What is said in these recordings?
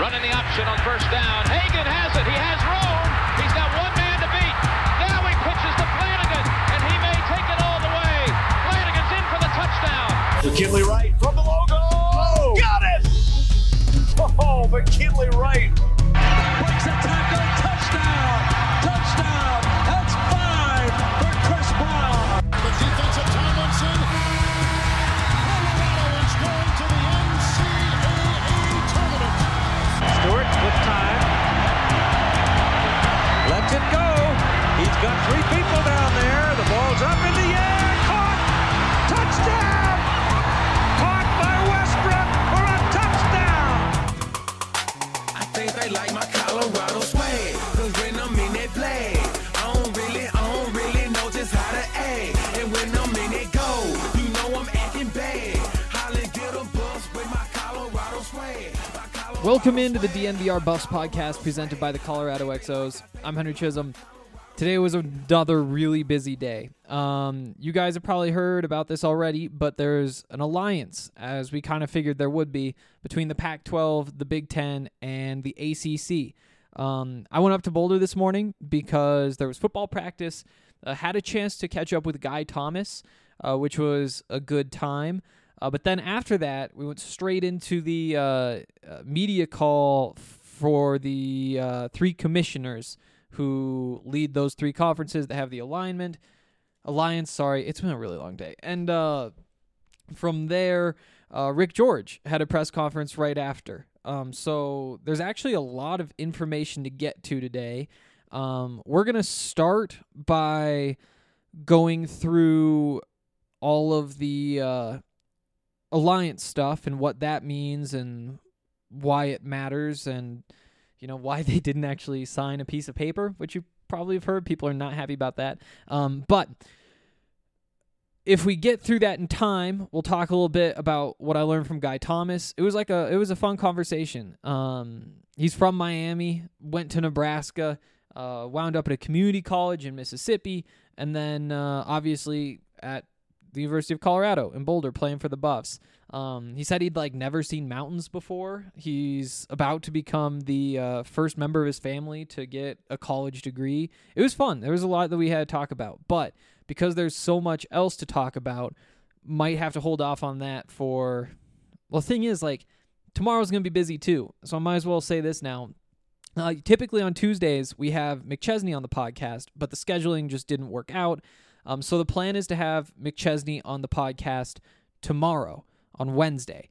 Running the option on first down. Hagan has it. He has room. He's got one man to beat. Now he pitches to Flanagan, and he may take it all the way. Flanagan's in for the touchdown. McKinley Wright from the logo. Oh, got it! Oh, McKinley Wright. Breaks a tackle. Touchdown. Touchdown. That's 5 for Chris Brown. The defensive Tomlinson. Colorado is going to the NCAA tournament. Stewart with time. Lets it go. He's got 3 people down there. The ball's up in the air. Caught. Touchdown. Caught by Westbrook for a touchdown. I think they like my Colorado swag. Cause when I'm in that play, I don't really know just how to act. And when I'm in it go, you know I'm acting bad. Holly get a bus with my Colorado swag. Welcome into the DNVR Buffs podcast presented by the Colorado XOs. I'm Henry Chisholm. Today was another really busy day. You guys have probably heard about this already, but there's an alliance, as we kind of figured there would be, between the Pac-12, the Big Ten, and the ACC. I went up to Boulder this morning because there was football practice. Had a chance to catch up with Guy Thomas, which was a good time. But then after that, we went straight into the media call for the 3 commissioners who lead those 3 conferences that have the alliance. It's been a really long day. And from there, Rick George had a press conference right after. So there's actually a lot of information to get to today. We're going to start by going through all of the alliance stuff and what that means and why it matters and, you know, why they didn't actually sign a piece of paper, which you probably have heard. People are not happy about that. But if we get through that in time, we'll talk a little bit about what I learned from Guy Thomas. It was a fun conversation. He's from Miami, went to Nebraska, wound up at a community college in Mississippi, and then obviously at the University of Colorado in Boulder playing for the Buffs. He said he'd never seen mountains before. He's about to become the first member of his family to get a college degree. It was fun. There was a lot that we had to talk about, but because there's so much else to talk about, might have to hold off on that for, well, the thing is, tomorrow's going to be busy too, so I might as well say this now. Typically on Tuesdays, we have McChesney on the podcast, but the scheduling just didn't work out. So the plan is to have McChesney on the podcast tomorrow, on Wednesday.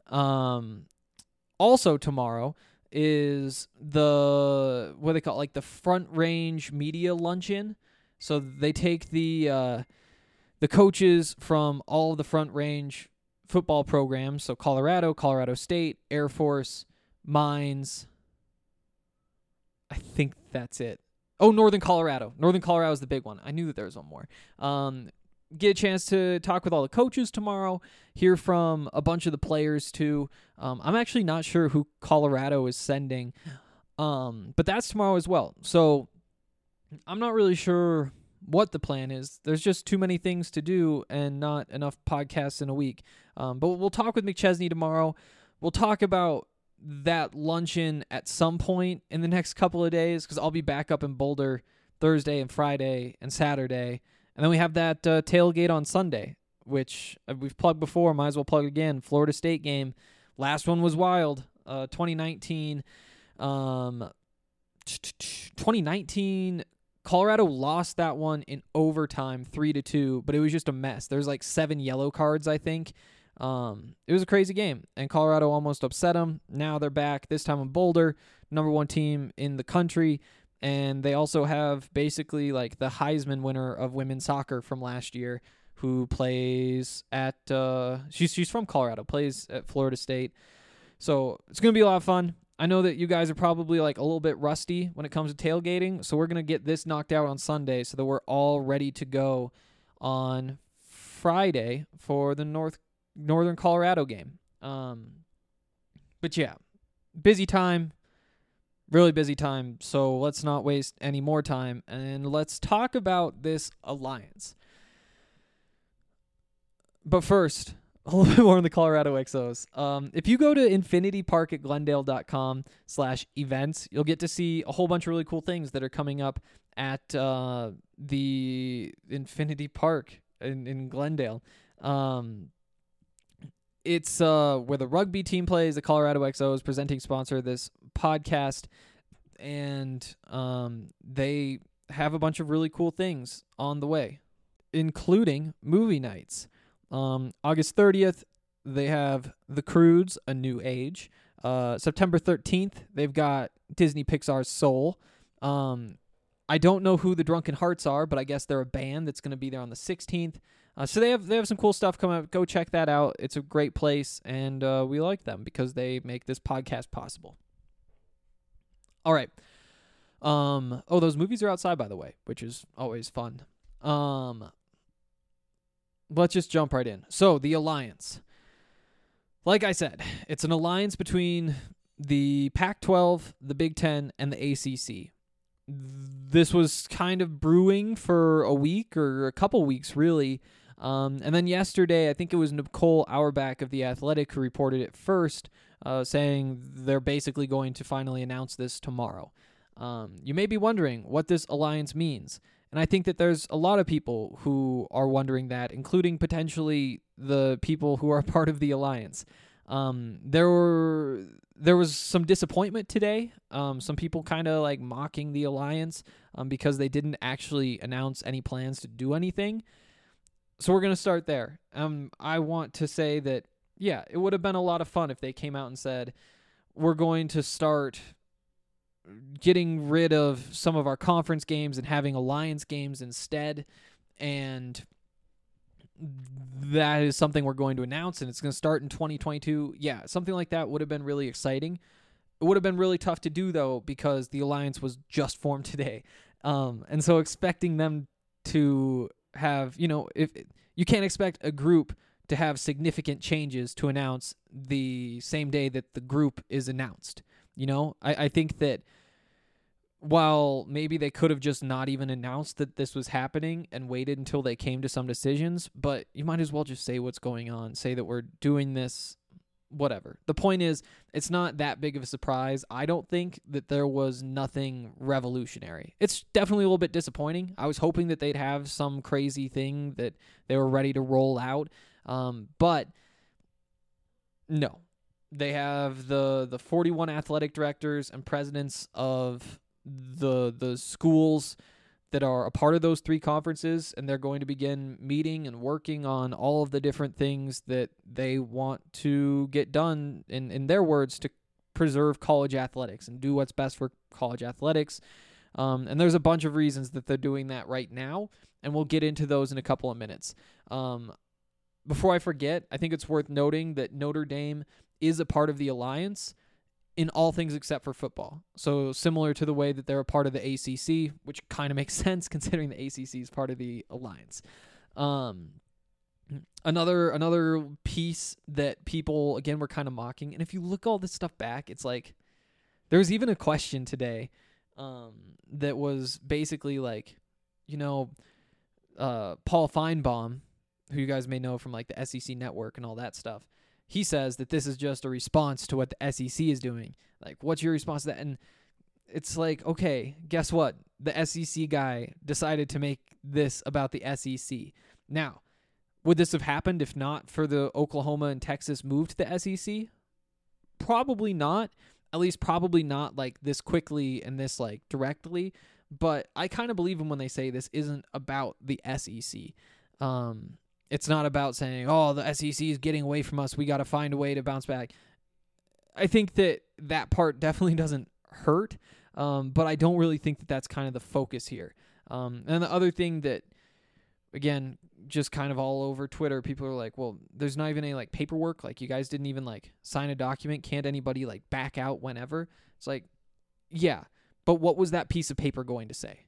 Also tomorrow is the, what they call the Front Range Media Luncheon. So they take the coaches from all of the Front Range football programs, so Colorado, Colorado State, Air Force, Mines. I think that's it. Oh, Northern Colorado. Northern Colorado is the big one. I knew that there was one more. Get a chance to talk with all the coaches tomorrow, hear from a bunch of the players too. I'm actually not sure who Colorado is sending, but that's tomorrow as well. So I'm not really sure what the plan is. There's just too many things to do and not enough podcasts in a week. But we'll talk with McChesney tomorrow. We'll talk about that luncheon at some point in the next couple of days because I'll be back up in Boulder Thursday and Friday and Saturday. And then we have that tailgate on Sunday, which we've plugged before, might as well plug again. Florida State game. Last one was wild. 2019. 2019, Colorado lost that one in overtime 3-2, but it was just a mess. There's 7 yellow cards, I think. It was a crazy game, and Colorado almost upset them. Now they're back, this time in Boulder, number 1 team in the country, and they also have basically the Heisman winner of women's soccer from last year who plays at, she's from Colorado, plays at Florida State. So it's going to be a lot of fun. I know that you guys are probably a little bit rusty when it comes to tailgating, so we're going to get this knocked out on Sunday so that we're all ready to go on Friday for the Northern Colorado game. But yeah, busy time, really busy time, so let's not waste any more time, and let's talk about this alliance. But first, a little bit more on the Colorado Exos. If you go to infinitypark@glendale.com/events, you'll get to see a whole bunch of really cool things that are coming up at the Infinity Park in Glendale. It's where the rugby team plays. The Colorado Exos, presenting sponsor of this podcast, and they have a bunch of really cool things on the way, including movie nights. August 30th, they have The Croods: A New Age. September 13th, they've got Disney Pixar's Soul. I don't know who the Drunken Hearts are, but I guess they're a band that's going to be there on the 16th. So they have some cool stuff coming up. Go check that out. It's a great place, and we like them because they make this podcast possible. All right. Those movies are outside, by the way, which is always fun. Let's just jump right in. So, the Alliance. Like I said, it's an alliance between the Pac-12, the Big Ten, and the ACC. This was kind of brewing for a week or a couple weeks, really. And then yesterday, I think it was Nicole Auerbach of The Athletic who reported it first, saying they're basically going to finally announce this tomorrow. You may be wondering what this alliance means. And I think that there's a lot of people who are wondering that, including potentially the people who are part of the alliance. There was some disappointment today. Some people kind of like mocking the alliance because they didn't actually announce any plans to do anything. So we're going to start there. I want to say that, yeah, it would have been a lot of fun if they came out and said, we're going to start getting rid of some of our conference games and having alliance games instead. And that is something we're going to announce, and it's going to start in 2022. Yeah, something like that would have been really exciting. It would have been really tough to do, though, because the alliance was just formed today. And so expecting them to have, if you can't expect a group to have significant changes to announce the same day that the group is announced. I think that while maybe they could have just not even announced that this was happening and waited until they came to some decisions, but you might as well just say what's going on, say that we're doing this, whatever. The point is, it's not that big of a surprise. I don't think that there was nothing revolutionary. It's definitely a little bit disappointing. I was hoping that they'd have some crazy thing that they were ready to roll out, but no. They have the 41 athletic directors and presidents of the schools that are a part of those three conferences, and they're going to begin meeting and working on all of the different things that they want to get done, in their words, to preserve college athletics and do what's best for college athletics. And there's a bunch of reasons that they're doing that right now, and we'll get into those in a couple of minutes. Before I forget, I think it's worth noting that Notre Dame is a part of the alliance in all things except for football. So similar to the way that they're a part of the ACC, which kind of makes sense considering the ACC is part of the alliance. Another piece that people, again, were kind of mocking, and if you look all this stuff back, it's like there was even a question today that was basically like, Paul Feinbaum, who you guys may know from like the SEC Network and all that stuff, he says that this is just a response to what the SEC is doing. Like, what's your response to that? And it's like, okay, guess what? The SEC guy decided to make this about the SEC. Now, would this have happened if not for the Oklahoma and Texas move to the SEC? Probably not. At least probably not like this quickly and this like directly. But I kind of believe them when they say this isn't about the SEC. It's not about saying, oh, the SEC is getting away from us, we got to find a way to bounce back. I think that part definitely doesn't hurt, but I don't really think that that's kind of the focus here. And the other thing that, again, just kind of all over Twitter, people are like, well, there's not even any like paperwork. Like, you guys didn't even like sign a document. Can't anybody like back out whenever? It's like, yeah, but what was that piece of paper going to say?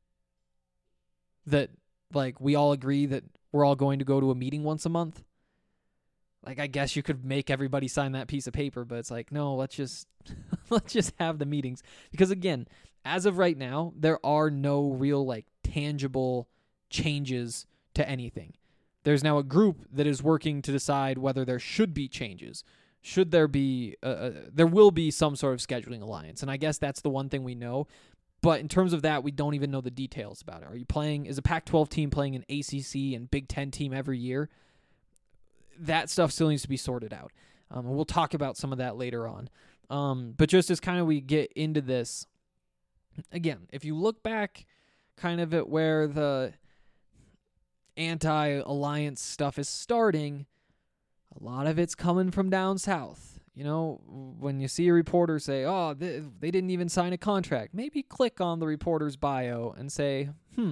That like we all agree that we're all going to go to a meeting once a month? Like, I guess you could make everybody sign that piece of paper, but it's like, no, let's just have the meetings. Because again, as of right now, there are no real like tangible changes to anything. There's now a group that is working to decide whether there should be changes. Should there be, there will be some sort of scheduling alliance. And I guess that's the one thing we know. But in terms of that, we don't even know the details about it. Is a Pac-12 team playing an ACC and Big Ten team every year? That stuff still needs to be sorted out. And we'll talk about some of that later on. But just as kind of we get into this, again, if you look back kind of at where the anti-alliance stuff is starting, a lot of it's coming from down south. You know, when you see a reporter say, oh, they didn't even sign a contract, maybe click on the reporter's bio and say,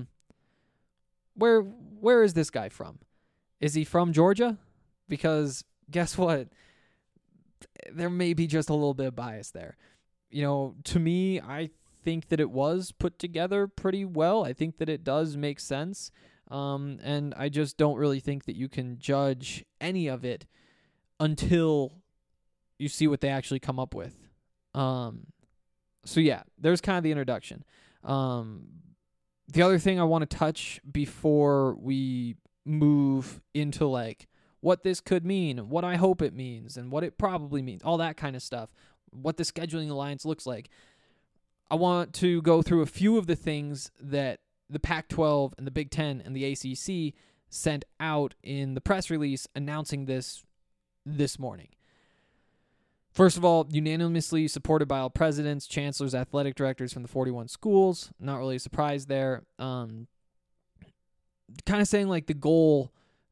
where is this guy from? Is he from Georgia? Because guess what? There may be just a little bit of bias there. You know, to me, I think that it was put together pretty well. I think that it does make sense. And I just don't really think that you can judge any of it until you see what they actually come up with. So yeah, there's kind of the introduction. The other thing I want to touch before we move into like what this could mean, what I hope it means, and what it probably means, all that kind of stuff, what the scheduling alliance looks like. I want to go through a few of the things that the Pac-12 and the Big Ten and the ACC sent out in the press release announcing this morning. First of all, unanimously supported by all presidents, chancellors, athletic directors from the 41 schools. Not really a surprise there. Kind of saying like the goal,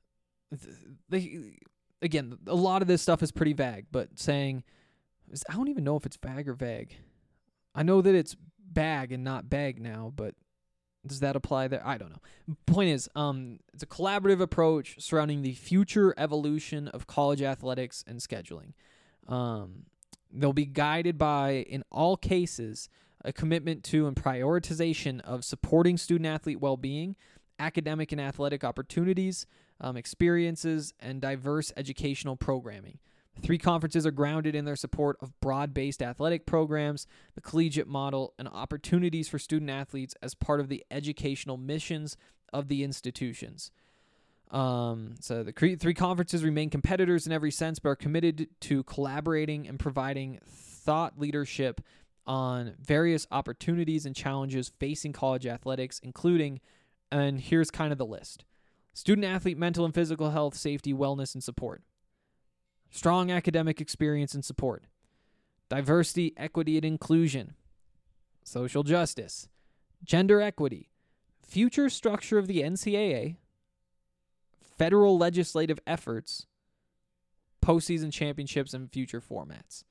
again, a lot of this stuff is pretty vague, but saying, I don't even know if it's vague or vague. I know that it's bag and not bag now, but does that apply there? I don't know. Point is, it's a collaborative approach surrounding the future evolution of college athletics and scheduling. They'll be guided by, in all cases, a commitment to and prioritization of supporting student-athlete well-being, academic and athletic opportunities, experiences, and diverse educational programming. The three conferences are grounded in their support of broad-based athletic programs, the collegiate model, and opportunities for student-athletes as part of the educational missions of the institutions. So the three conferences remain competitors in every sense, but are committed to collaborating and providing thought leadership on various opportunities and challenges facing college athletics, including, and here's kind of the list: student-athlete mental and physical health, safety, wellness, and support. Strong academic experience and support. Diversity, equity, and inclusion. Social justice. Gender equity. Future structure of the NCAA. Federal legislative efforts. Postseason championships and future formats.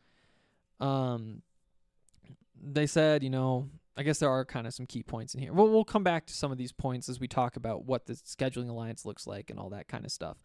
They said, I guess there are kind of some key points in here. We'll come back to some of these points as we talk about what the scheduling alliance looks like and all that kind of stuff.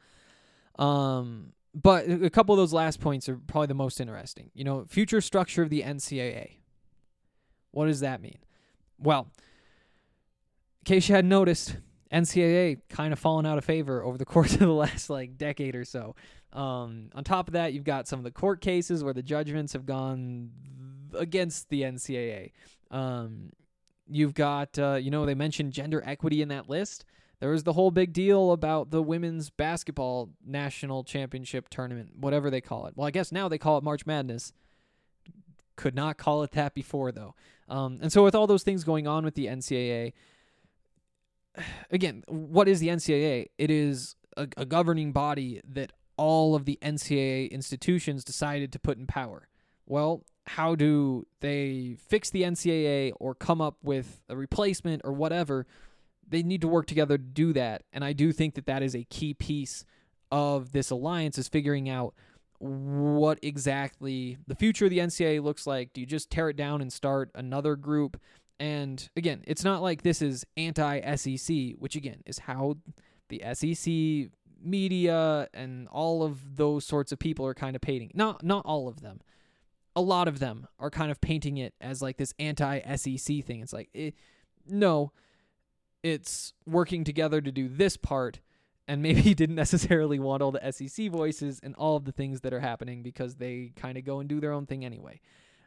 But a couple of those last points are probably the most interesting. Future structure of the NCAA. What does that mean? Well, in case you hadn't noticed, NCAA kind of fallen out of favor over the course of the last decade or so. On top of that, you've got some of the court cases where the judgments have gone against the NCAA. You've got, they mentioned gender equity in that list. There was the whole big deal about the women's basketball national championship tournament, whatever they call it. Well, I guess now they call it March Madness. Could not call it that before, though. And so with all those things going on with the NCAA, again, what is the NCAA? It is a governing body that all of the NCAA institutions decided to put in power. Well, how do they fix the NCAA or come up with a replacement or whatever? They need to work together to do that, and I do think that that is a key piece of this alliance, is figuring out what exactly the future of the NCAA looks like. Do you just tear it down and start another group? And again, it's not like this is anti-SEC, which again is how the SEC media and all of those sorts of people are kind of painting. Not all of them. A lot of them are kind of painting it as like this anti-SEC thing. It's like, no. It's working together to do this part, and maybe didn't necessarily want all the SEC voices and all of the things that are happening because they kind of go and do their own thing anyway.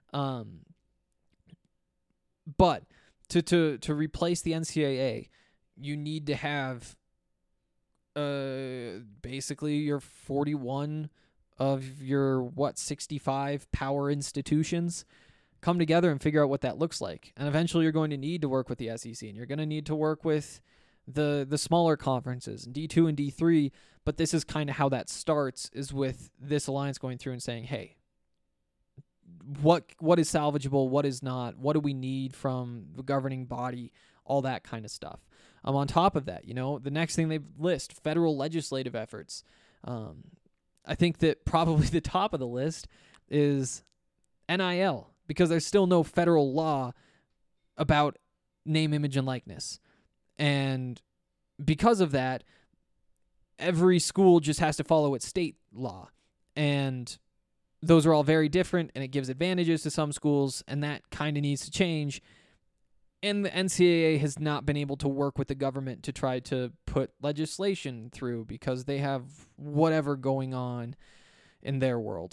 But to replace the NCAA, you need to have basically your 41 of your 65 power institutions come together and figure out what that looks like. And eventually you're going to need to work with the SEC, and you're going to need to work with the smaller conferences, D2 and D3, but this is kind of how that starts, is with this alliance going through and saying, hey, what is salvageable, what is not, what do we need from the governing body, all that kind of stuff. On top of that, the next thing they list, federal legislative efforts. I think that probably the top of the list is NIL, because there's still no federal law about name, image, and likeness. And because of that, every school just has to follow its state law. And those are all very different, and it gives advantages to some schools, and that kind of needs to change. And the NCAA has not been able to work with the government to try to put legislation through because they have whatever going on in their world.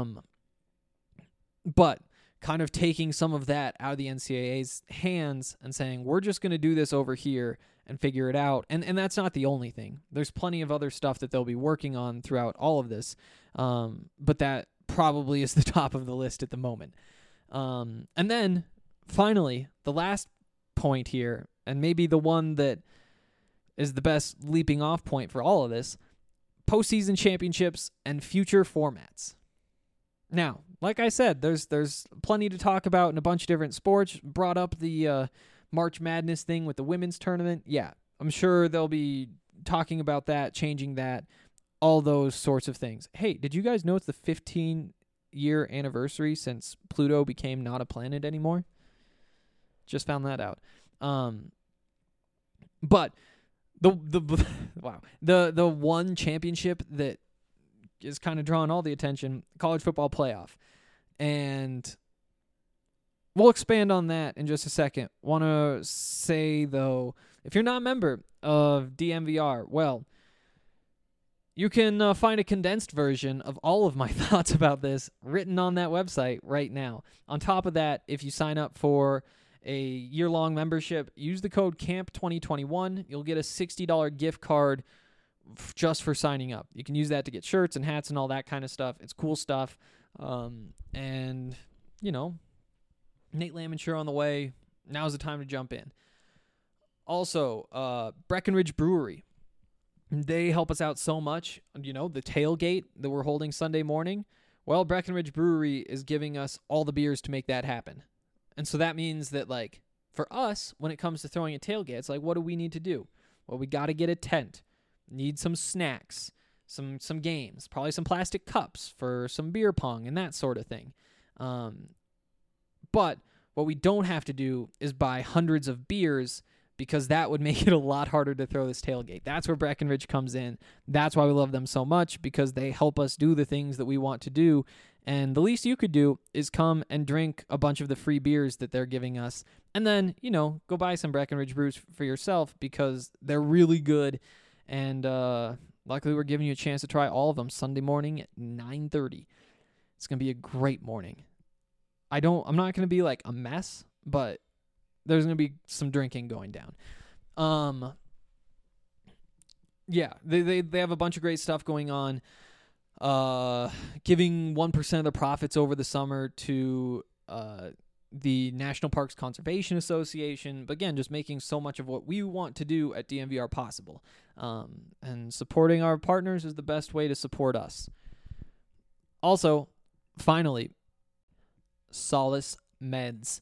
But kind of taking some of that out of the NCAA's hands and saying, we're just going to do this over here and figure it out. And that's not the only thing. There's plenty of other stuff that they'll be working on throughout all of this. But that probably is the top of the list at the moment. And then finally, the last point here, and maybe the one that is the best leaping off point for all of this, postseason championships and future formats. Now, like I said, there's plenty to talk about in a bunch of different sports. Brought up the March Madness thing with the women's tournament. Yeah, I'm sure they'll be talking about that, changing that, all those sorts of things. Hey, did you guys know it's the 15-year anniversary since Pluto became not a planet anymore? Just found that out. But the one championship that is kind of drawing all the attention, college football playoff. And we'll expand on that in just a second. Want to say, though, if you're not a member of DNVR, well, you can find a condensed version of all of my thoughts about this written on that website right now. On top of that, if you sign up for a year-long membership, use the code CAMP2021. You'll get a $60 gift card just for signing up. You can use that to get shirts and hats and all that kind of stuff. It's cool stuff. And, Nate Lamonsure on the way. Now's the time to jump in. Also, Breckenridge Brewery. They help us out so much. The tailgate that we're holding Sunday morning. Well, Breckenridge Brewery is giving us all the beers to make that happen. And so that means that, for us, when it comes to throwing a tailgate, it's what do we need to do? Well, we got to get a tent. Need some snacks, some games, probably some plastic cups for some beer pong and that sort of thing. But what we don't have to do is buy hundreds of beers, because that would make it a lot harder to throw this tailgate. That's where Breckenridge comes in. That's why we love them so much, because they help us do the things that we want to do. And the least you could do is come and drink a bunch of the free beers that they're giving us. And then, go buy some Breckenridge brews for yourself, because they're really good. And luckily, we're giving you a chance to try all of them Sunday morning at 9:30. It's going to be a great morning. I'm not going to be a mess, but there's going to be some drinking going down. Yeah, they have a bunch of great stuff going on. Giving 1% of the profits over the summer to the National Parks Conservation Association. But again, just making so much of what we want to do at DNVR possible. And supporting our partners is the best way to support us. Also, finally, Solace Meds.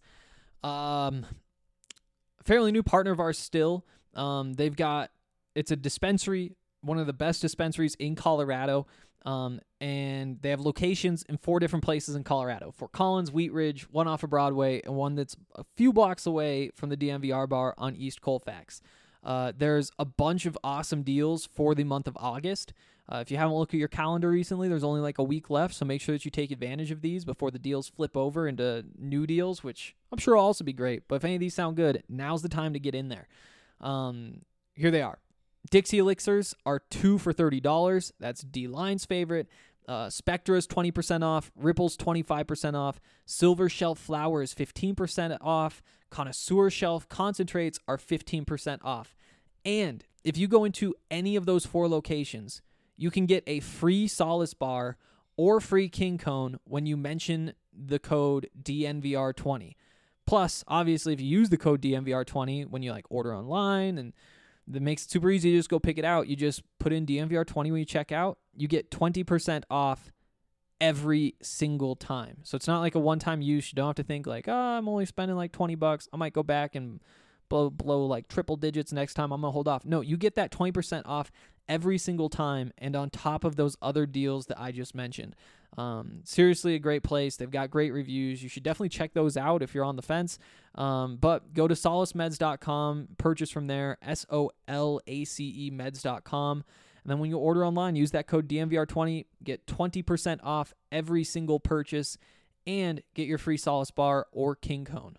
Fairly new partner of ours still. It's a dispensary, one of the best dispensaries in Colorado. And they have locations in 4 different places in Colorado: Fort Collins, Wheat Ridge, one off of Broadway, and one that's a few blocks away from the DNVR bar on East Colfax. There's a bunch of awesome deals for the month of August. If you haven't looked at your calendar recently, there's only a week left, so make sure that you take advantage of these before the deals flip over into new deals, which I'm sure will also be great. But if any of these sound good, now's the time to get in there. Here they are. Dixie Elixirs are 2 for $30. That's D-Line's favorite. Spectra is 20% off. Ripple's 25% off. Silver Shelf Flower is 15% off. Connoisseur Shelf Concentrates are 15% off. And if you go into any of those 4 locations, you can get a free Solace bar or free King Cone when you mention the code DNVR20. Plus, obviously, if you use the code DNVR20 when you order online, and that makes it super easy to just go pick it out. You just put in DNVR20 when you check out. You get 20% off every single time. So it's not like a one-time use. You don't have to think I'm only spending $20. I might go back and blow triple digits next time. I'm going to hold off. No, you get that 20% off every single time, and on top of those other deals that I just mentioned. Seriously, a great place. They've got great reviews. You should definitely check those out if you're on the fence. But go to solacemeds.com, purchase from there, SOLACE meds.com. And then when you order online, use that code DNVR20, get 20% off every single purchase, and get your free Solace bar or King Cone.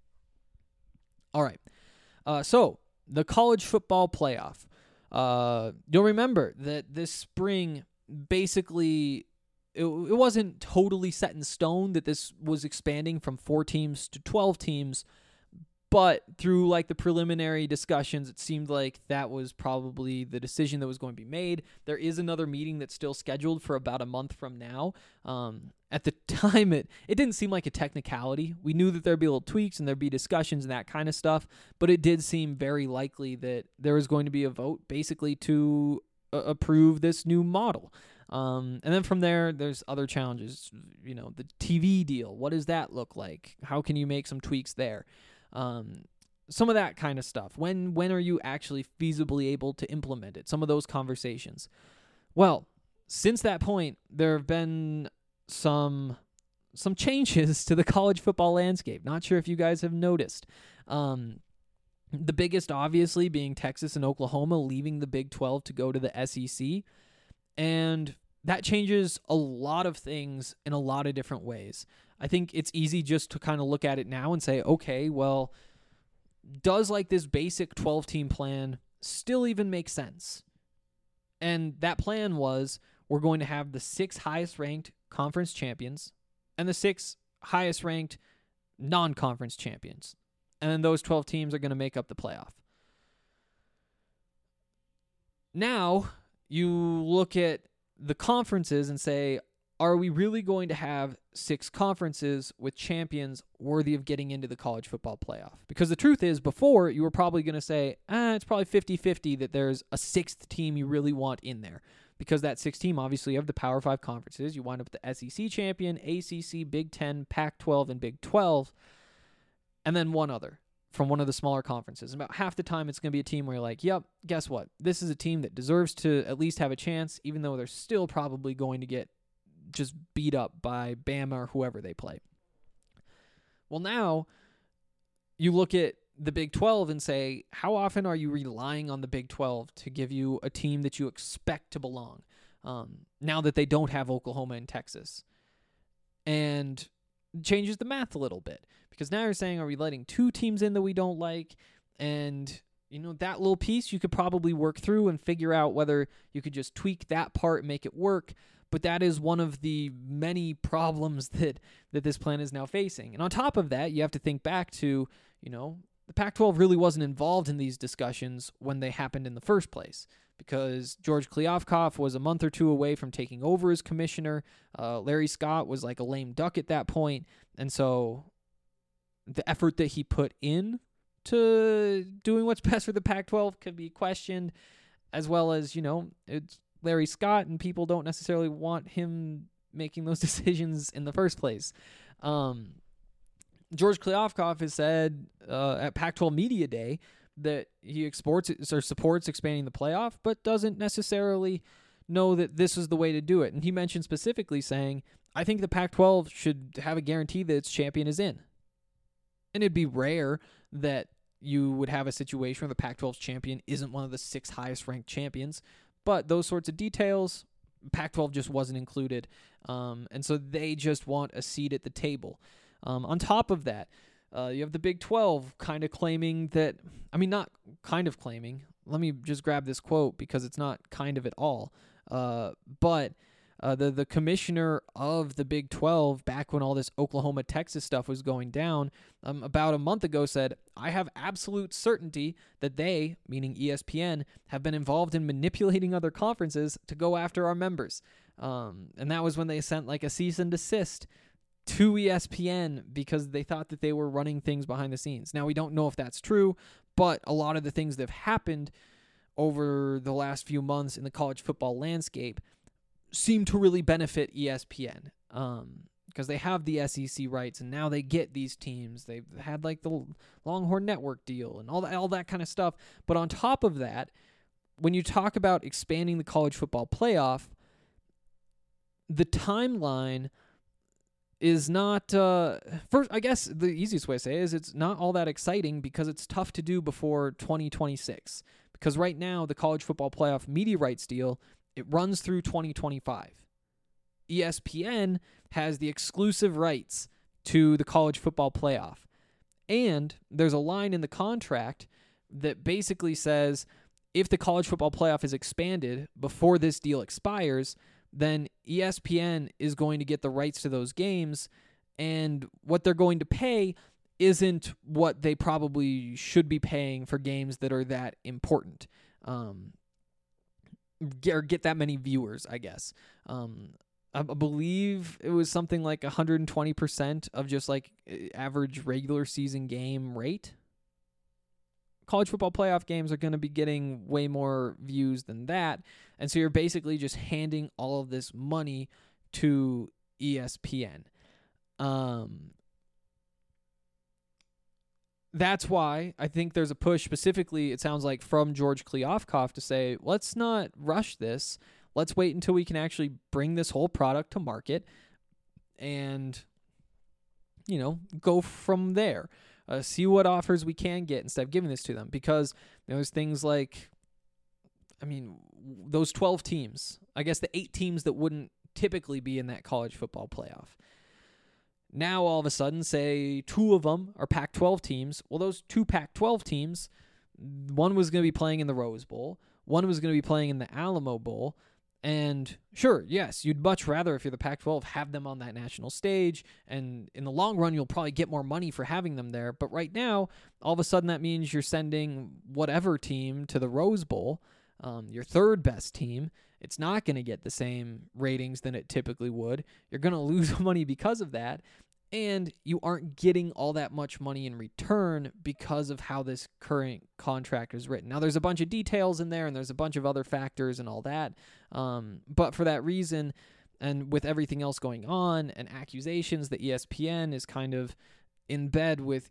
All right. So the college football playoff. You'll remember that this spring, basically, it wasn't totally set in stone that this was expanding from 4 teams to 12 teams, but through the preliminary discussions, it seemed like that was probably the decision that was going to be made. There is another meeting that's still scheduled for about a month from now. At the time, it didn't seem like a technicality. We knew that there'd be little tweaks and there'd be discussions and that kind of stuff, but it did seem very likely that there was going to be a vote basically to approve this new model. And then from there, there's other challenges. The TV deal. What does that look like? How can you make some tweaks there? Some of that kind of stuff. When are you actually feasibly able to implement it? Some of those conversations. Well, since that point, there have been some changes to the college football landscape. Not sure if you guys have noticed. The biggest, obviously, being Texas and Oklahoma leaving the Big 12 to go to the SEC. And that changes a lot of things in a lot of different ways. I think it's easy just to kind of look at it now and say, okay, well, does this basic 12-team plan still even make sense? And that plan was, we're going to have the 6 highest-ranked conference champions and the 6 highest-ranked non-conference champions. And then those 12 teams are going to make up the playoff. Now, you look at the conferences and say, are we really going to have 6 conferences with champions worthy of getting into the college football playoff? Because the truth is, before, you were probably going to say, it's probably 50-50 that there's a 6th team you really want in there. Because that 6th team, obviously, you have the Power 5 conferences. You wind up with the SEC champion, ACC, Big 10, Pac-12, and Big 12. And then one other from one of the smaller conferences. And about half the time, it's going to be a team where you're like, yep, guess what? This is a team that deserves to at least have a chance, even though they're still probably going to get just beat up by Bama or whoever they play. Well, now you look at the Big 12 and say, how often are you relying on the Big 12 to give you a team that you expect to belong now that they don't have Oklahoma and Texas? And changes the math a little bit, because now you're saying, are we letting 2 teams in that we don't like? And that little piece you could probably work through and figure out whether you could just tweak that part and make it work. But that is one of the many problems that this plan is now facing. And on top of that, you have to think back to, the Pac-12 really wasn't involved in these discussions when they happened in the first place, because George Kliavkoff was a month or 2 away from taking over as commissioner. Larry Scott was like a lame duck at that point. And so the effort that he put in to doing what's best for the Pac-12 could be questioned, as well as, it's Larry Scott, and people don't necessarily want him making those decisions in the first place. George Kliavkoff has said at Pac-12 Media Day that he supports expanding the playoff, but doesn't necessarily know that this is the way to do it. And he mentioned specifically saying, I think the Pac-12 should have a guarantee that its champion is in. And it'd be rare that you would have a situation where the Pac-12's champion isn't one of the 6 highest-ranked champions. But those sorts of details, Pac-12 just wasn't included. And so they just want a seat at the table. On top of that, you have the Big 12 kind of claiming that, not kind of claiming. Let me just grab this quote because it's not kind of at all. But the commissioner of the Big 12, back when all this Oklahoma-Texas stuff was going down, about a month ago said, I have absolute certainty that they, meaning ESPN, have been involved in manipulating other conferences to go after our members. And that was when they sent like a cease and desist to ESPN because they thought that they were running things behind the scenes. Now, we don't know if that's true, but a lot of the things that have happened over the last few months in the college football landscape seem to really benefit ESPN because they have the SEC rights, and now they get these teams. They've had like the Longhorn Network deal and all that kind of stuff. But on top of that, when you talk about expanding the college football playoff, the timeline is not, first, I guess the easiest way to say it is it's not all that exciting because it's tough to do before 2026. Because right now, the college football playoff media rights deal, it runs through 2025. ESPN has the exclusive rights to the college football playoff. And there's a line in the contract that basically says if the college football playoff is expanded before this deal expires, then ESPN is going to get the rights to those games, and what they're going to pay isn't what they probably should be paying for games that are that important, or get that many viewers, I guess. I believe it was something like 120% of just like average regular season game rate. College football playoff games are going to be getting way more views than that. And so you're basically just handing all of this money to ESPN. That's why I think there's a push specifically, it sounds like, from George Kliavkoff to say, let's not rush this. Let's wait until we can actually bring this whole product to market and, go from there. See what offers we can get instead of giving this to them. Because there's things like, those 12 teams, I guess the 8 teams that wouldn't typically be in that college football playoff. Now, all of a sudden, say 2 of them are Pac-12 teams. Well, those 2 Pac-12 teams, one was going to be playing in the Rose Bowl. One was going to be playing in the Alamo Bowl. And sure, yes, you'd much rather, if you're the Pac-12, have them on that national stage. And in the long run, you'll probably get more money for having them there. But right now, all of a sudden, that means you're sending whatever team to the Rose Bowl, your third best team. It's not going to get the same ratings than it typically would. You're going to lose money because of that. And you aren't getting all that much money in return because of how this current contract is written. Now, there's a bunch of details in there, and there's a bunch of other factors and all that. But for that reason, and with everything else going on, and accusations that ESPN is kind of in bed with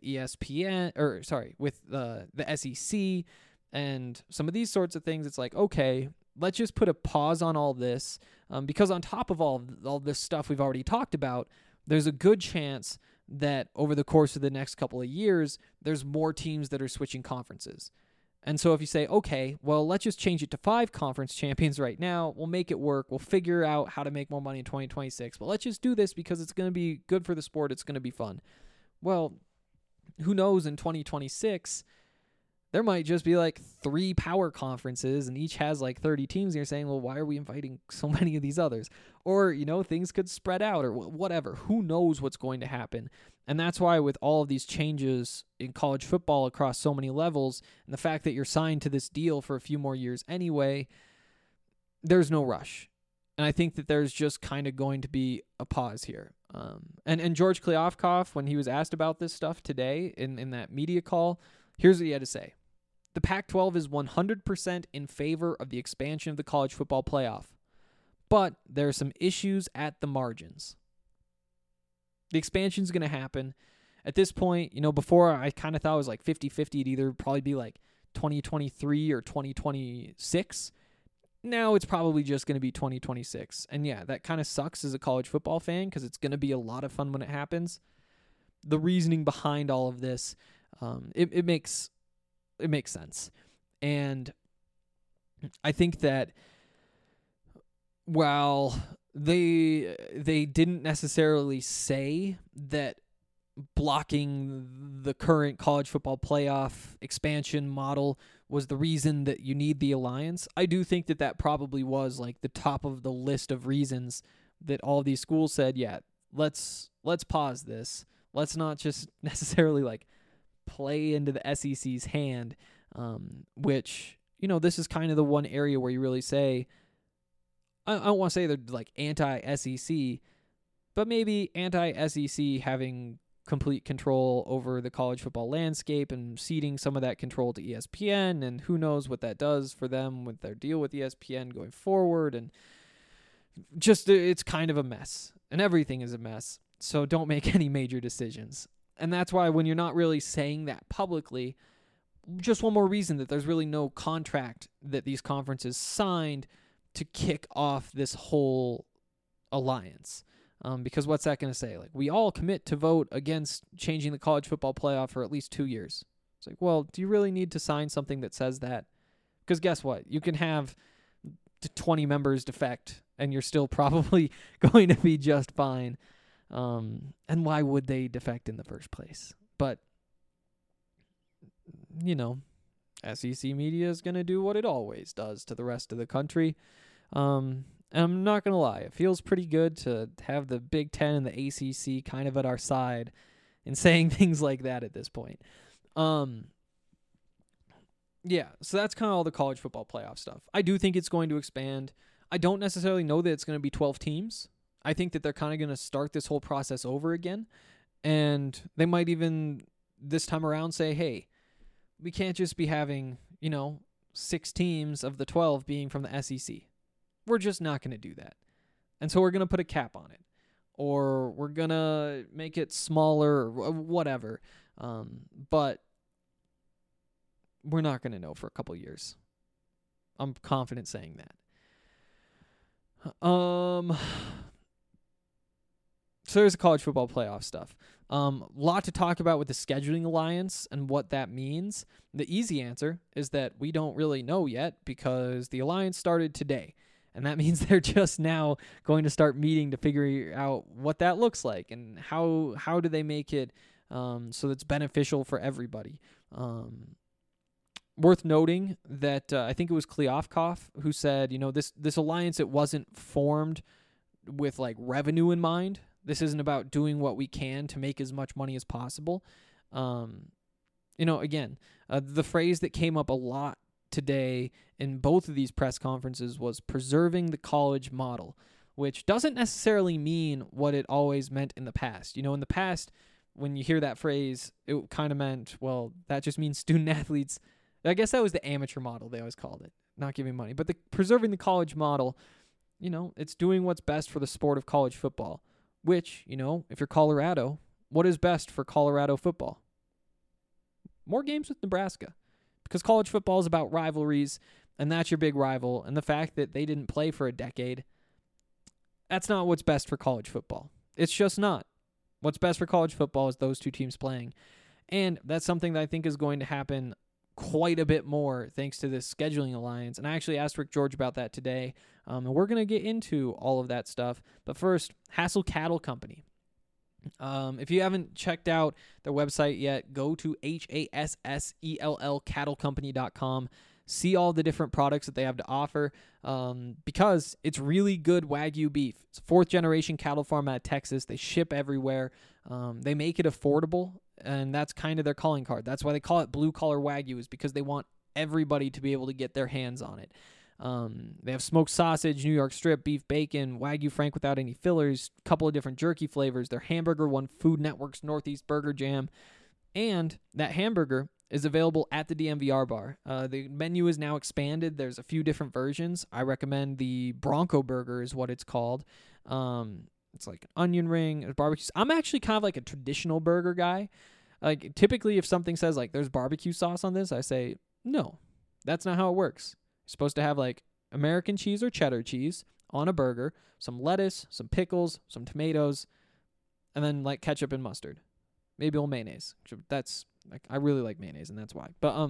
with the SEC, and some of these sorts of things, it's like, okay, let's just put a pause on all this, because on top of all this stuff we've already talked about, there's a good chance that over the course of the next couple of years, there's more teams that are switching conferences. And so if you say, okay, well, let's just change it to 5 conference champions right now, we'll make it work, we'll figure out how to make more money in 2026, but let's just do this because it's going to be good for the sport, it's going to be fun. Well, who knows, in 2026, there might just be like 3 power conferences and each has like 30 teams. And you're saying, well, why are we inviting so many of these others? Or, things could spread out or whatever. Who knows what's going to happen? And that's why with all of these changes in college football across so many levels and the fact that you're signed to this deal for a few more years anyway, there's no rush. And I think that there's just kind of going to be a pause here. And George Kliavkoff, when he was asked about this stuff today in that media call, here's what he had to say. The Pac-12 is 100% in favor of the expansion of the college football playoff, but there are some issues at the margins. The expansion is going to happen. At this point, before I kind of thought it was like 50-50. It'd either probably be like 2023 or 2026. Now it's probably just going to be 2026. And yeah, that kind of sucks as a college football fan because it's going to be a lot of fun when it happens. The reasoning behind all of this, it makes sense. And I think that while they didn't necessarily say that blocking the current college football playoff expansion model was the reason that you need the alliance. I do think that that probably was like the top of the list of reasons that all these schools said, yeah, let's pause this. Let's not just necessarily like play into the SEC's hand, which, you know, this is kind of the one area where you really say, I don't want to say they're like anti-SEC, but maybe anti-SEC having complete control over the college football landscape and ceding some of that control to ESPN, and who knows what that does for them with their deal with ESPN going forward. And just, it's kind of a mess, and everything is a mess. So don't make any major decisions. And that's why when you're not really saying that publicly, just one more reason that there's really no contract that these conferences signed to kick off this whole alliance. Because what's that going to say? Like, we all commit to vote against changing the college football playoff for at least 2 years. It's like, well, do you really need to sign something that says that? Because guess what? You can have 20 members defect, and you're still probably going to be just fine. And why would they defect in the first place? But, you know, SEC media is going to do what it always does to the rest of the country. And I'm not going to lie, it feels pretty good to have the Big Ten and the ACC kind of at our side in saying things like that at this point. Yeah, so that's kind of all the college football playoff stuff. I do think it's going to expand. I don't necessarily know that it's going to be 12 teams. I think that they're kind of going to start this whole process over again. And they might even this time around say, hey, we can't just be having, 6 teams of the 12 being from the SEC. We're just not going to do that. And so we're going to put a cap on it. Or we're going to make it smaller or whatever. But we're not going to know for a couple years. I'm confident saying that. So there's the college football playoff stuff. Lot to talk about with the scheduling alliance and what that means. The easy answer is that we don't really know yet because the alliance started today. And that means they're just now going to start meeting to figure out what that looks like and how do they make it so that's beneficial for everybody. Worth noting that I think it was Kliavkoff who said, this alliance, it wasn't formed with like revenue in mind. This isn't about doing what we can to make as much money as possible. Again, the phrase that came up a lot today in both of these press conferences was preserving the college model, which doesn't necessarily mean what it always meant in the past. In the past, when you hear that phrase, it kind of meant, well, that just means student athletes. I guess that was the amateur model, they always called it, not giving money. But the preserving the college model, it's doing what's best for the sport of college football, which, if you're Colorado, what is best for Colorado football? More games with Nebraska. Because college football is about rivalries, and that's your big rival. And the fact that they didn't play for a decade, that's not what's best for college football. It's just not. What's best for college football is those two teams playing. And that's something that I think is going to happen quite a bit more thanks to this scheduling alliance. And I actually asked Rick George about that today. And we're going to get into all of that stuff. But first, Hassel Cattle Company. If you haven't checked out their website yet, go to HASSELL cattlecompany.com. See all the different products that they have to offer because it's really good Wagyu beef. It's a 4th-generation cattle farm out of Texas. They ship everywhere. They make it affordable, and that's kind of their calling card. That's why they call it blue-collar Wagyu, is because they want everybody to be able to get their hands on it. They have smoked sausage, New York strip, beef bacon, Wagyu Frank without any fillers, a couple of different jerky flavors. Their hamburger won Food Network's Northeast Burger Jam, and that hamburger is available at the DMVR bar. The menu is now expanded. There's a few different versions. I recommend the Bronco Burger is what it's called. It's like an onion ring, barbecue. I'm actually kind of like a traditional burger guy. Like typically if something says like there's barbecue sauce on this, I say, no, that's not how it works. You're supposed to have like American cheese or cheddar cheese on a burger, some lettuce, some pickles, some tomatoes, and then like ketchup and mustard. Maybe a little mayonnaise. That's like, I really like mayonnaise, and that's why. But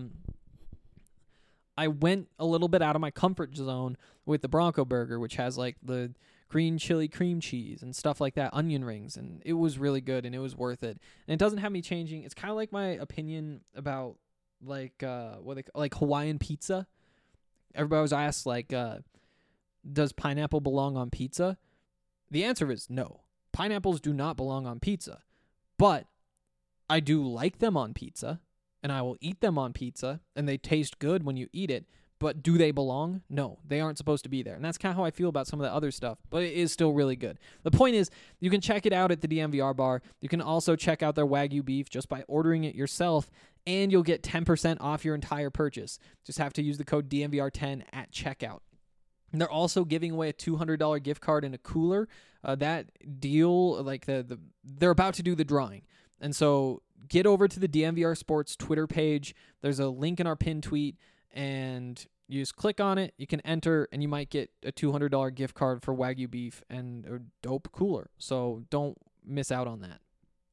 I went a little bit out of my comfort zone with the Bronco Burger, which has like the green chili cream cheese and stuff like that, onion rings, and it was really good and it was worth it. And it doesn't have me changing. It's kind of like my opinion about like like Hawaiian pizza. Everybody was asked like, does pineapple belong on pizza? The answer is no. Pineapples do not belong on pizza, but I do like them on pizza, and I will eat them on pizza, and they taste good when you eat it. But do they belong? No, they aren't supposed to be there. And that's kind of how I feel about some of the other stuff, but it is still really good. The point is, you can check it out at the DMVR bar. You can also check out their Wagyu beef just by ordering it yourself, and you'll get 10% off your entire purchase. Just have to use the code DMVR10 at checkout. And they're also giving away a $200 gift card and a cooler. That deal, like they're about to do the drawing. And so get over to the DMVR Sports Twitter page. There's a link in our pinned tweet, and you just click on it, you can enter, and you might get a $200 gift card for Wagyu beef and a dope cooler. So don't miss out on that.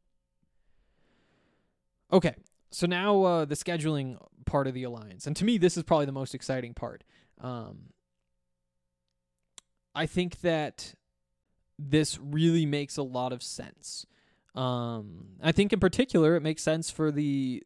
Okay, so now the scheduling part of the Alliance. And to me, this is probably the most exciting part. I think that this really makes a lot of sense. I think in particular, it makes sense for the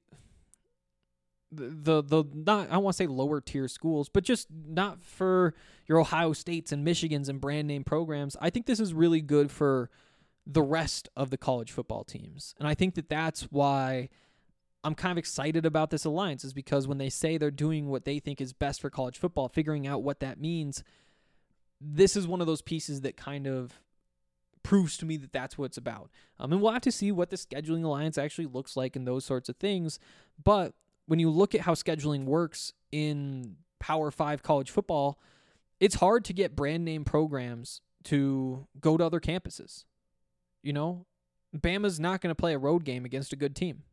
not, I don't want to say lower tier schools, but just not for your Ohio States and Michigans and brand name programs. I think this is really good for the rest of the college football teams. And I think that that's why I'm kind of excited about this alliance, is because when they say they're doing what they think is best for college football, figuring out what that means, this is one of those pieces that kind of proves to me that that's what it's about. And we'll have to see what the scheduling alliance actually looks like and those sorts of things. But when you look at how scheduling works in Power 5 college football, it's hard to get brand name programs to go to other campuses. You know, Bama's not going to play a road game against a good team.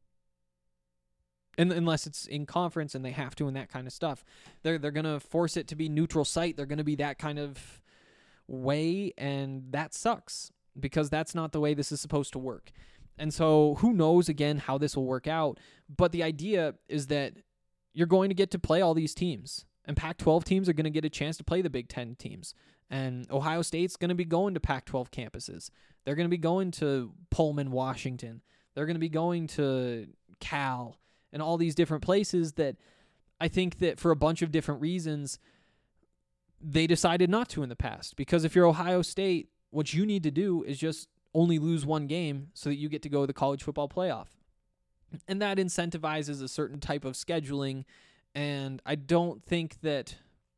Unless it's in conference and they have to and that kind of stuff. They're going to force it to be neutral site. They're going to be that kind of way, and that sucks because that's not the way this is supposed to work. And so who knows, again, how this will work out. But the idea is that you're going to get to play all these teams. And Pac-12 teams are going to get a chance to play the Big Ten teams. And Ohio State's going to be going to Pac-12 campuses. They're going to be going to Pullman, Washington. They're going to be going to Cal and all these different places that I think that for a bunch of different reasons, they decided not to in the past. Because if you're Ohio State, what you need to do is just only lose one game so that you get to go to the college football playoff. And that incentivizes a certain type of scheduling. And I don't think that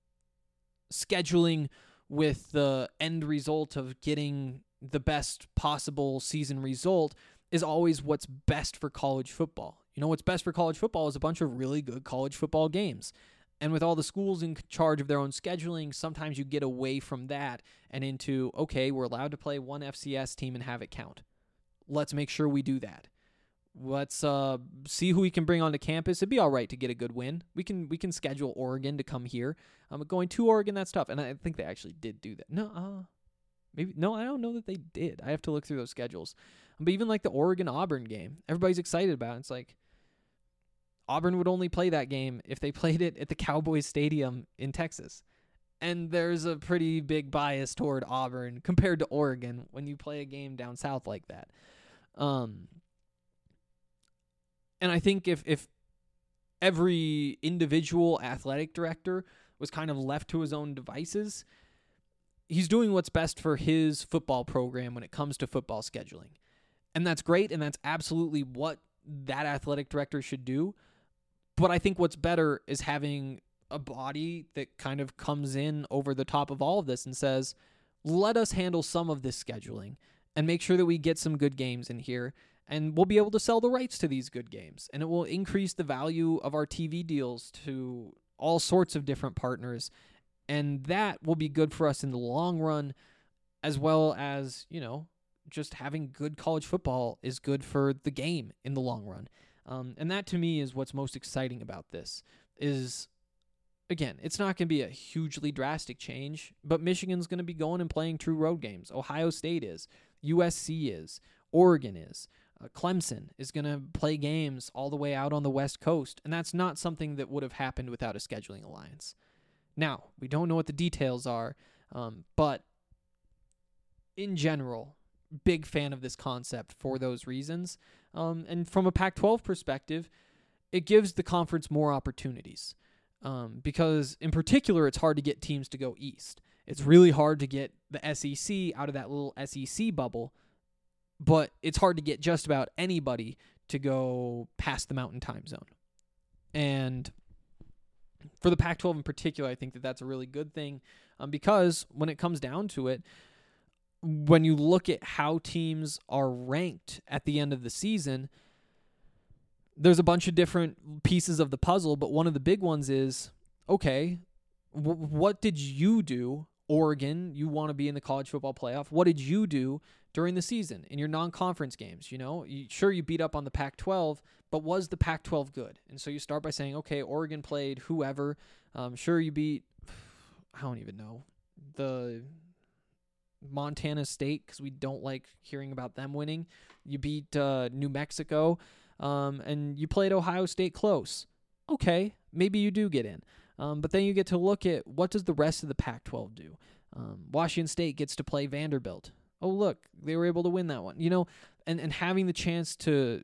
scheduling with the end result of getting the best possible season result is always what's best for college football. You know, what's best for college football is a bunch of really good college football games. And with all the schools in charge of their own scheduling, sometimes you get away from that and into, okay, we're allowed to play one FCS team and have it count. Let's make sure we do that. Let's see who we can bring onto campus. It'd be all right to get a good win. We can schedule Oregon to come here. Going to Oregon, that's tough. And I think they actually did do that. Maybe no, I don't know that they did. I have to look through those schedules. But even like the Oregon-Auburn game, everybody's excited about it. It's like Auburn would only play that game if they played it at the Cowboys Stadium in Texas. And there's a pretty big bias toward Auburn compared to Oregon when you play a game down south like that. And I think if every individual athletic director was kind of left to his own devices, he's doing what's best for his football program when it comes to football scheduling. And that's great, and that's absolutely what that athletic director should do. But I think what's better is having a body that kind of comes in over the top of all of this and says, let us handle some of this scheduling and make sure that we get some good games in here, and we'll be able to sell the rights to these good games. And it will increase the value of our TV deals to all sorts of different partners. And that will be good for us in the long run, as well as, you know, just having good college football is good for the game in the long run. And that to me is what's most exciting about this is, again, it's not going to be a hugely drastic change, but Michigan's going to be going and playing true road games. Ohio State is. USC is. Oregon is. Clemson is going to play games all the way out on the West Coast, and that's not something that would have happened without a scheduling alliance. Now, we don't know what the details are, but in general, big fan of this concept for those reasons. And from a Pac-12 perspective, it gives the conference more opportunities. Because in particular, it's hard to get teams to go east. It's really hard to get the SEC out of that little SEC bubble, but it's hard to get just about anybody to go past the Mountain Time Zone. And for the Pac-12 in particular, I think that that's a really good thing, because when it comes down to it, when you look at how teams are ranked at the end of the season, there's a bunch of different pieces of the puzzle, but one of the big ones is, okay, what did you do, Oregon? You want to be in the college football playoff. What did you do during the season in your non-conference games? You know, sure, you beat up on the Pac-12, but was the Pac-12 good? And so you start by saying, okay, Oregon played whoever. Sure, you beat, I don't even know, the Montana State, because we don't like hearing about them winning. You beat New Mexico. And you played Ohio State close. Okay, maybe you do get in. But then you get to look at, what does the rest of the Pac-12 do? Washington State gets to play Vanderbilt. Oh, look, they were able to win that one. You know, and having the chance to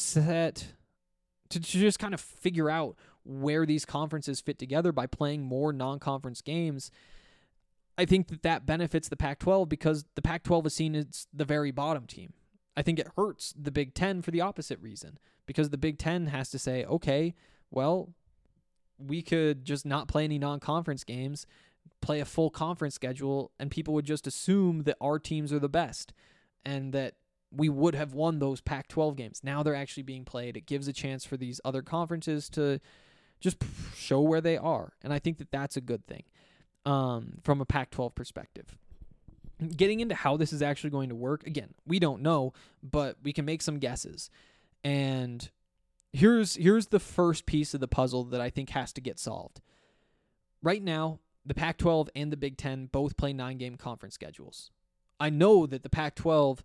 just kind of figure out where these conferences fit together by playing more non-conference games, I think that benefits the Pac-12, because the Pac-12 is seen as the very bottom team. I think it hurts the Big Ten for the opposite reason, because the Big Ten has to say, okay, well, we could just not play any non-conference games, play a full conference schedule, and people would just assume that our teams are the best and that we would have won those Pac-12 games. Now they're actually being played. It gives a chance for these other conferences to just show where they are, and I think that that's a good thing from a Pac-12 perspective. Getting into how this is actually going to work, again, we don't know, but we can make some guesses. And here's the first piece of the puzzle that I think has to get solved. Right now, the Pac-12 and the Big Ten both play 9-game conference schedules. I know that the Pac-12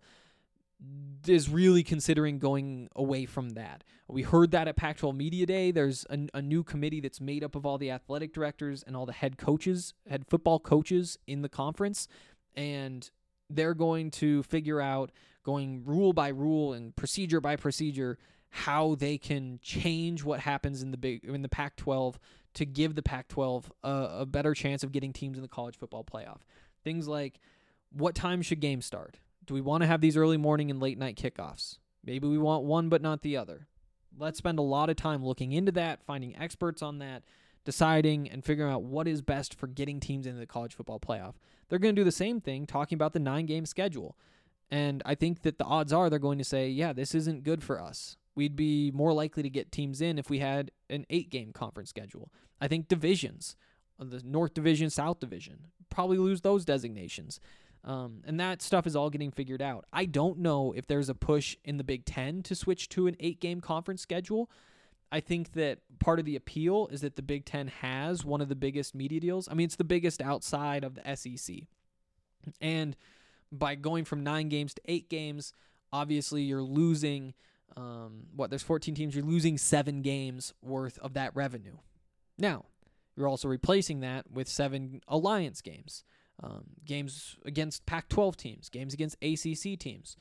is really considering going away from that. We heard that at Pac-12 Media Day. There's a new committee that's made up of all the athletic directors and all the head football coaches in the conference. And they're going to figure out, going rule by rule and procedure by procedure, how they can change what happens in the Pac-12 to give the Pac-12 a better chance of getting teams in the college football playoff. Things like, what time should games start? Do we want to have these early morning and late night kickoffs? Maybe we want one but not the other. Let's spend a lot of time looking into that, finding experts on that, deciding and figuring out what is best for getting teams into the college football playoff. They're going to do the same thing, talking about the 9-game schedule. And I think that the odds are they're going to say, yeah, this isn't good for us. We'd be more likely to get teams in if we had an 8-game conference schedule. I think divisions, the North Division, South Division, probably lose those designations. And that stuff is all getting figured out. I don't know if there's a push in the Big Ten to switch to an 8-game conference schedule. I think that part of the appeal is that the Big Ten has one of the biggest media deals. I mean, it's the biggest outside of the SEC. And by going from 9 games to 8 games, obviously you're losing, there's 14 teams, you're losing 7 games worth of that revenue. Now, you're also replacing that with 7 alliance games, games against Pac-12 teams, games against ACC teams.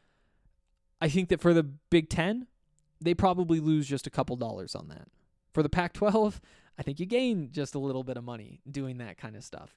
I think that for the Big Ten, they probably lose just a couple dollars on that. For the Pac-12, I think you gain just a little bit of money doing that kind of stuff.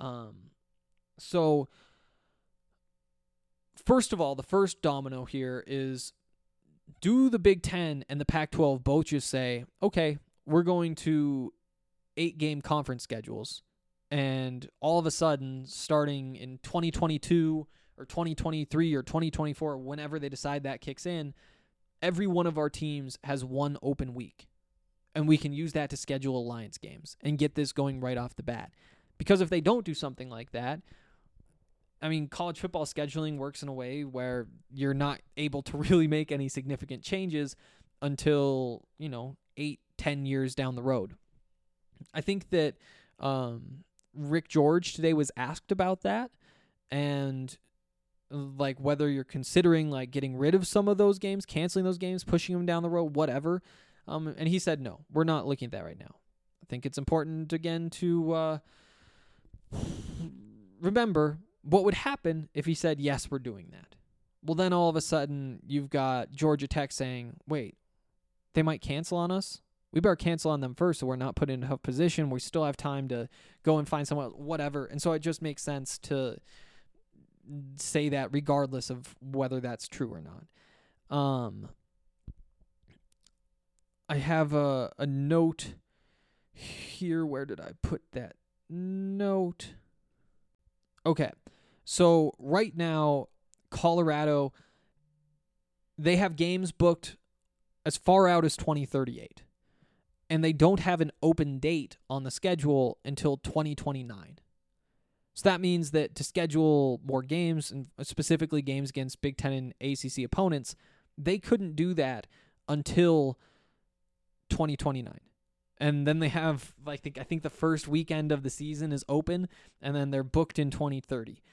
So, first of all, the first domino here is, do the Big Ten and the Pac-12 both just say, okay, we're going to 8-game conference schedules, and all of a sudden, starting in 2022 or 2023 or 2024, whenever they decide that kicks in, every one of our teams has one open week, and we can use that to schedule alliance games and get this going right off the bat. Because if they don't do something like that, I mean, college football scheduling works in a way where you're not able to really make any significant changes until, 8-10 years down the road. I think that Rick George today was asked about that, and like whether you're considering like getting rid of some of those games, canceling those games, pushing them down the road, whatever. And he said, no, we're not looking at that right now. I think it's important, again, to remember what would happen if he said, yes, we're doing that? Well, then all of a sudden you've got Georgia Tech saying, wait, they might cancel on us? We better cancel on them first so we're not put in a tough position. We still have time to go and find someone else, whatever. And so it just makes sense to say that regardless of whether that's true or not. I have a note here. Where did I put that note? Okay. So right now, Colorado, they have games booked as far out as 2038. And they don't have an open date on the schedule until 2029. So that means that to schedule more games, and specifically games against Big Ten and ACC opponents, they couldn't do that until 2029. And then they have, I think the first weekend of the season is open, and then they're booked in 2030.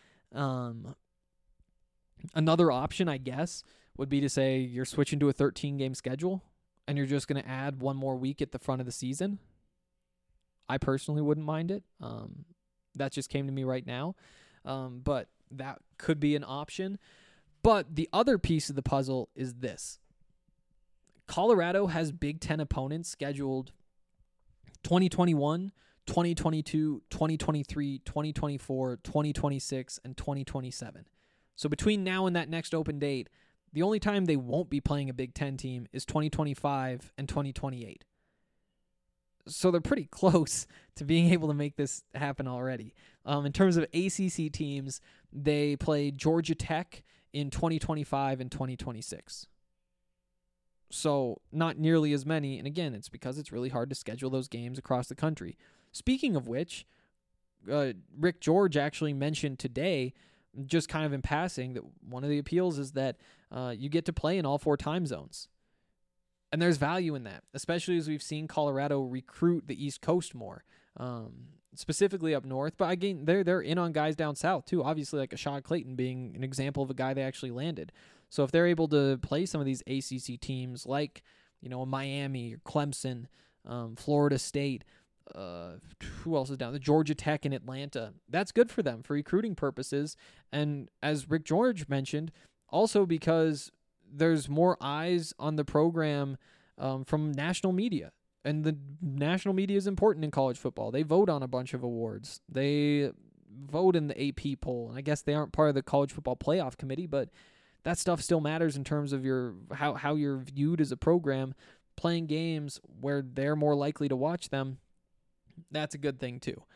Another option, I guess, would be to say you're switching to a 13-game schedule, and you're just going to add one more week at the front of the season. I personally wouldn't mind it. That just came to me right now. But that could be an option. But the other piece of the puzzle is this. Colorado has Big Ten opponents scheduled 2021, 2022, 2023, 2024, 2026, and 2027. So between now and that next open date, the only time they won't be playing a Big Ten team is 2025 and 2028. So they're pretty close to being able to make this happen already. In terms of ACC teams, they play Georgia Tech in 2025 and 2026. So not nearly as many. And again, it's because it's really hard to schedule those games across the country. Speaking of which, Rick George actually mentioned today, just kind of in passing, that one of the appeals is that you get to play in all 4 time zones. And there's value in that, especially as we've seen Colorado recruit the East Coast more, specifically up north. But again, they're in on guys down south too. Obviously, like Ashad Clayton being an example of a guy they actually landed. So if they're able to play some of these ACC teams like, Miami or Clemson, Florida State, who else is down? The Georgia Tech in Atlanta. That's good for them for recruiting purposes. And as Rick George mentioned, also because there's more eyes on the program from national media. And the national media is important in college football. They vote on a bunch of awards. They vote in the AP poll. And I guess they aren't part of the college football playoff committee, but that stuff still matters in terms of how you're viewed as a program. Playing games where they're more likely to watch them, that's a good thing too.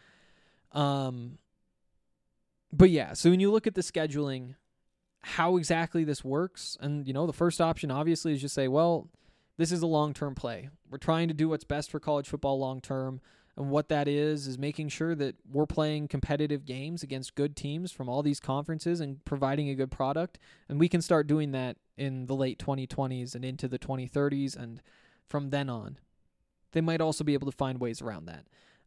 But yeah, so when you look at the scheduling, how exactly this works, and the first option obviously is just say, well, this is a long-term play. We're trying to do what's best for college football long-term, and what that is making sure that we're playing competitive games against good teams from all these conferences and providing a good product, and we can start doing that in the late 2020s and into the 2030s, and from then on. They might also be able to find ways around that.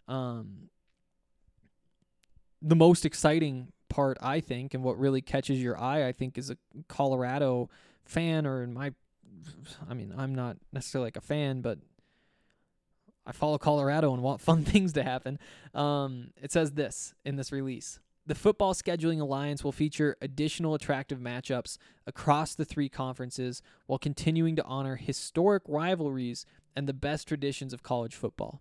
The most exciting part, I think, and what really catches your eye, I think, is a Colorado fan, or I'm not necessarily like a fan, but I follow Colorado and want fun things to happen. It says this in this release. The Football Scheduling Alliance will feature additional attractive matchups across the 3 conferences while continuing to honor historic rivalries and the best traditions of college football.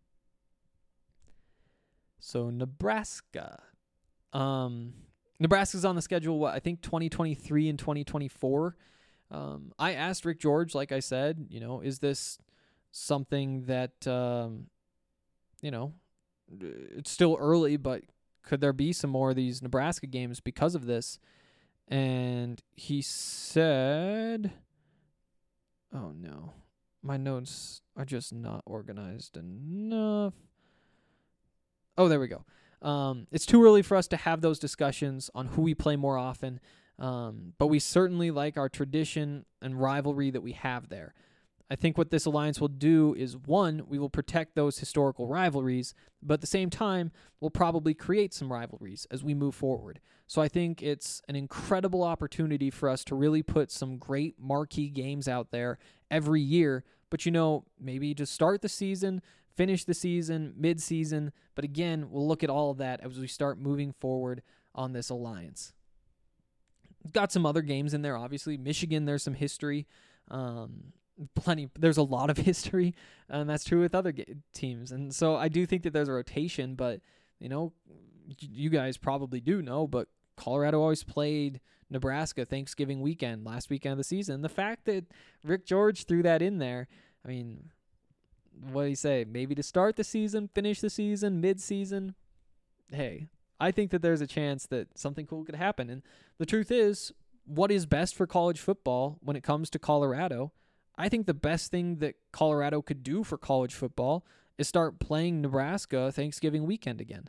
So Nebraska. Nebraska's on the schedule, I think 2023 and 2024. I asked Rick George, like I said, is this something that, it's still early, but could there be some more of these Nebraska games because of this? And he said, oh no, my notes are just not organized enough. Oh, there we go. It's too early for us to have those discussions on who we play more often, but we certainly like our tradition and rivalry that we have there. I think what this alliance will do is, one, we will protect those historical rivalries, but at the same time, we'll probably create some rivalries as we move forward. So I think it's an incredible opportunity for us to really put some great marquee games out there every year, but maybe to start the season, finish the season, mid-season, but again, we'll look at all of that as we start moving forward on this alliance. Got some other games in there, obviously. Michigan, there's some history. There's a lot of history, and that's true with other teams. And so I do think that there's a rotation, but, you guys probably do know, but Colorado always played Nebraska Thanksgiving weekend, last weekend of the season. The fact that Rick George threw that in there, I mean, what do you say? Maybe to start the season, finish the season, mid-season. Hey, I think that there's a chance that something cool could happen. And the truth is, what is best for college football when it comes to Colorado? I think the best thing that Colorado could do for college football is start playing Nebraska Thanksgiving weekend again.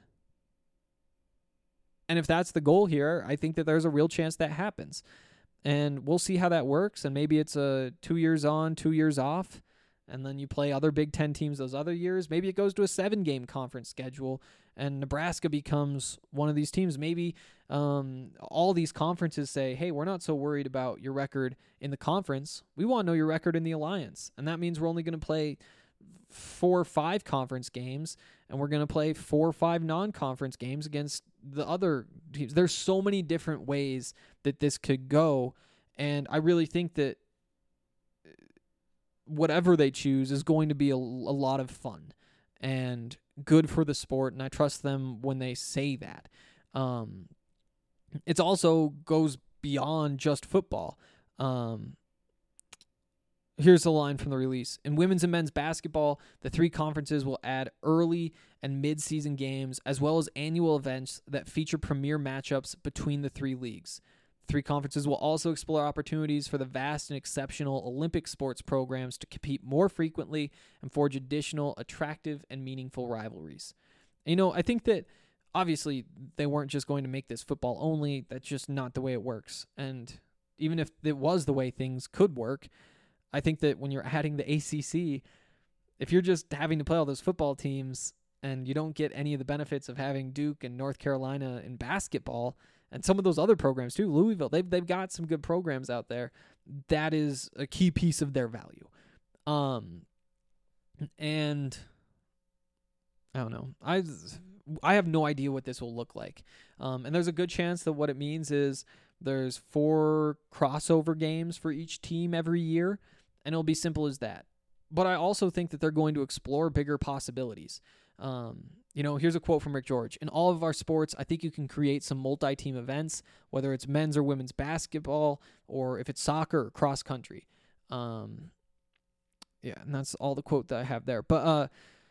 And if that's the goal here, I think that there's a real chance that happens. And we'll see how that works. And maybe it's a 2 years on, 2 years off. And then you play other Big Ten teams those other years. Maybe it goes to a 7-game conference schedule and Nebraska becomes one of these teams. Maybe all these conferences say, hey, we're not so worried about your record in the conference. We want to know your record in the alliance. And that means we're only going to play 4 or 5 conference games, and we're going to play 4 or 5 non-conference games against the other teams. There's so many different ways that this could go, and I really think that whatever they choose is going to be a lot of fun and good for the sport, and I trust them when they say that. It also goes beyond just football. Here's a line from the release. In women's and men's basketball, the 3 conferences will add early and mid-season games as well as annual events that feature premier matchups between the 3 leagues. 3 conferences will also explore opportunities for the vast and exceptional Olympic sports programs to compete more frequently and forge additional attractive and meaningful rivalries. I think that obviously they weren't just going to make this football only. That's just not the way it works. And even if it was the way things could work, I think that when you're adding the ACC, if you're just having to play all those football teams and you don't get any of the benefits of having Duke and North Carolina in basketball and some of those other programs too, Louisville, they've got some good programs out there. That is a key piece of their value. And I don't know. I have no idea what this will look like. And there's a good chance that what it means is there's 4 crossover games for each team every year, and it'll be simple as that. But I also think that they're going to explore bigger possibilities. Here's a quote from Rick George. In all of our sports, I think you can create some multi-team events, whether it's men's or women's basketball, or if it's soccer or cross country. And that's all the quote that I have there. But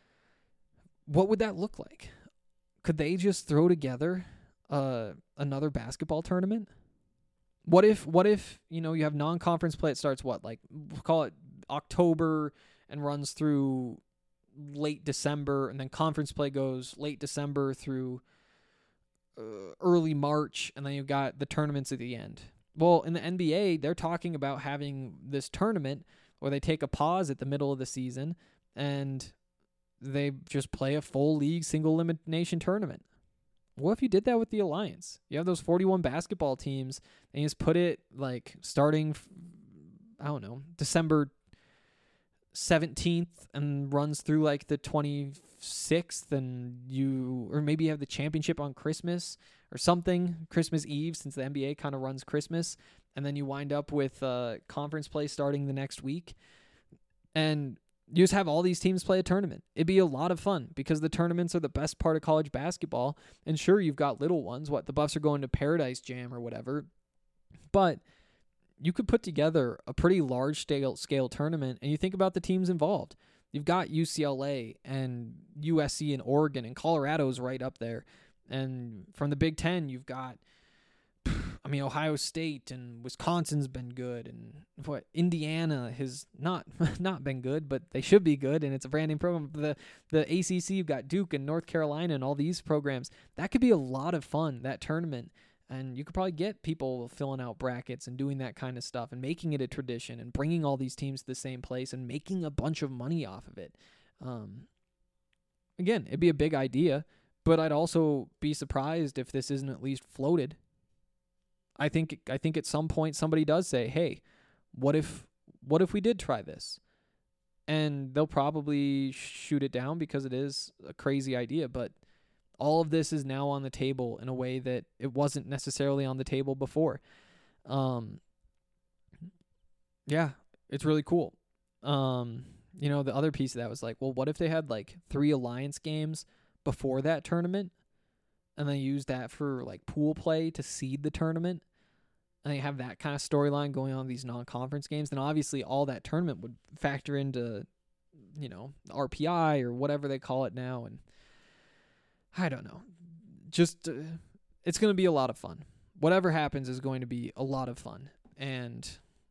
what would that look like? Could they just throw together another basketball tournament? What if you have non-conference play? It starts we'll call it October and runs through late December, and then conference play goes late December through early March, and then you've got the tournaments at the end. Well, in the NBA, they're talking about having this tournament where they take a pause at the middle of the season and they just play a full league single elimination tournament. What if you did that with the Alliance? You have those 41 basketball teams, and you just put it starting, December 17th and runs through the 26th, or maybe you have the championship on Christmas or something, Christmas Eve, since the NBA kind of runs Christmas, and then you wind up with conference play starting the next week, and you just have all these teams play a tournament. It'd be a lot of fun because the tournaments are the best part of college basketball. And sure, you've got little ones. The Buffs are going to Paradise Jam or whatever. But you could put together a pretty large scale tournament, and you think about the teams involved. You've got UCLA and USC and Oregon, and Colorado's right up there. And from the Big Ten, you've got Ohio State and Wisconsin's been good, and Indiana has not been good, but they should be good, and it's a brand new program. The ACC, you've got Duke and North Carolina and all these programs. That could be a lot of fun, that tournament, and you could probably get people filling out brackets and doing that kind of stuff and making it a tradition and bringing all these teams to the same place and making a bunch of money off of it. Again, it'd be a big idea, but I'd also be surprised if this isn't at least floated. I think at some point somebody does say, hey, what if we did try this? And they'll probably shoot it down because it is a crazy idea, but All of this is now on the table in a way that it wasn't necessarily on the table before. Yeah, it's really cool. The other piece of that was like, well, what if they had like 3 alliance games before that tournament and they use that for like pool play to seed the tournament, and they have that kind of storyline going on in these non-conference games? Then obviously all that tournament would factor into, RPI or whatever they call it now. And I don't know. Just, it's going to be a lot of fun. Whatever happens is going to be a lot of fun. And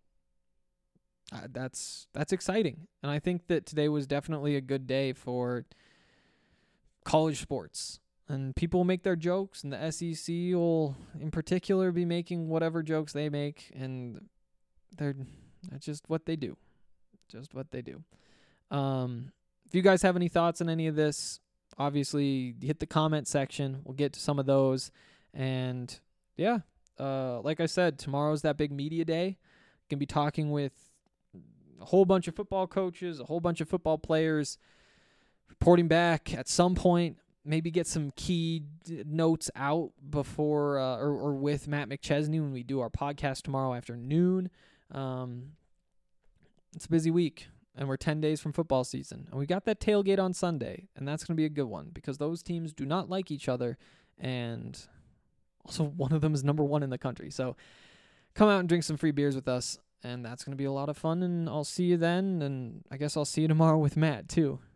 that's exciting. And I think that today was definitely a good day for college sports. And people will make their jokes, and the SEC will, in particular, be making whatever jokes they make. And that's just what they do. Just what they do. If you guys have any thoughts on any of this, obviously hit the comment section. We'll get to some of those. And yeah, like I said, tomorrow's that big media day. Gonna be talking with a whole bunch of football coaches, a whole bunch of football players, reporting back at some point. Maybe get some key notes out before or with Matt McChesney when we do our podcast tomorrow afternoon. It's a busy week, and we're 10 days from football season. And we got that tailgate on Sunday, and that's going to be a good one because those teams do not like each other, and also one of them is number 1 in the country. So come out and drink some free beers with us, and that's going to be a lot of fun, and I'll see you then, and I guess I'll see you tomorrow with Matt too.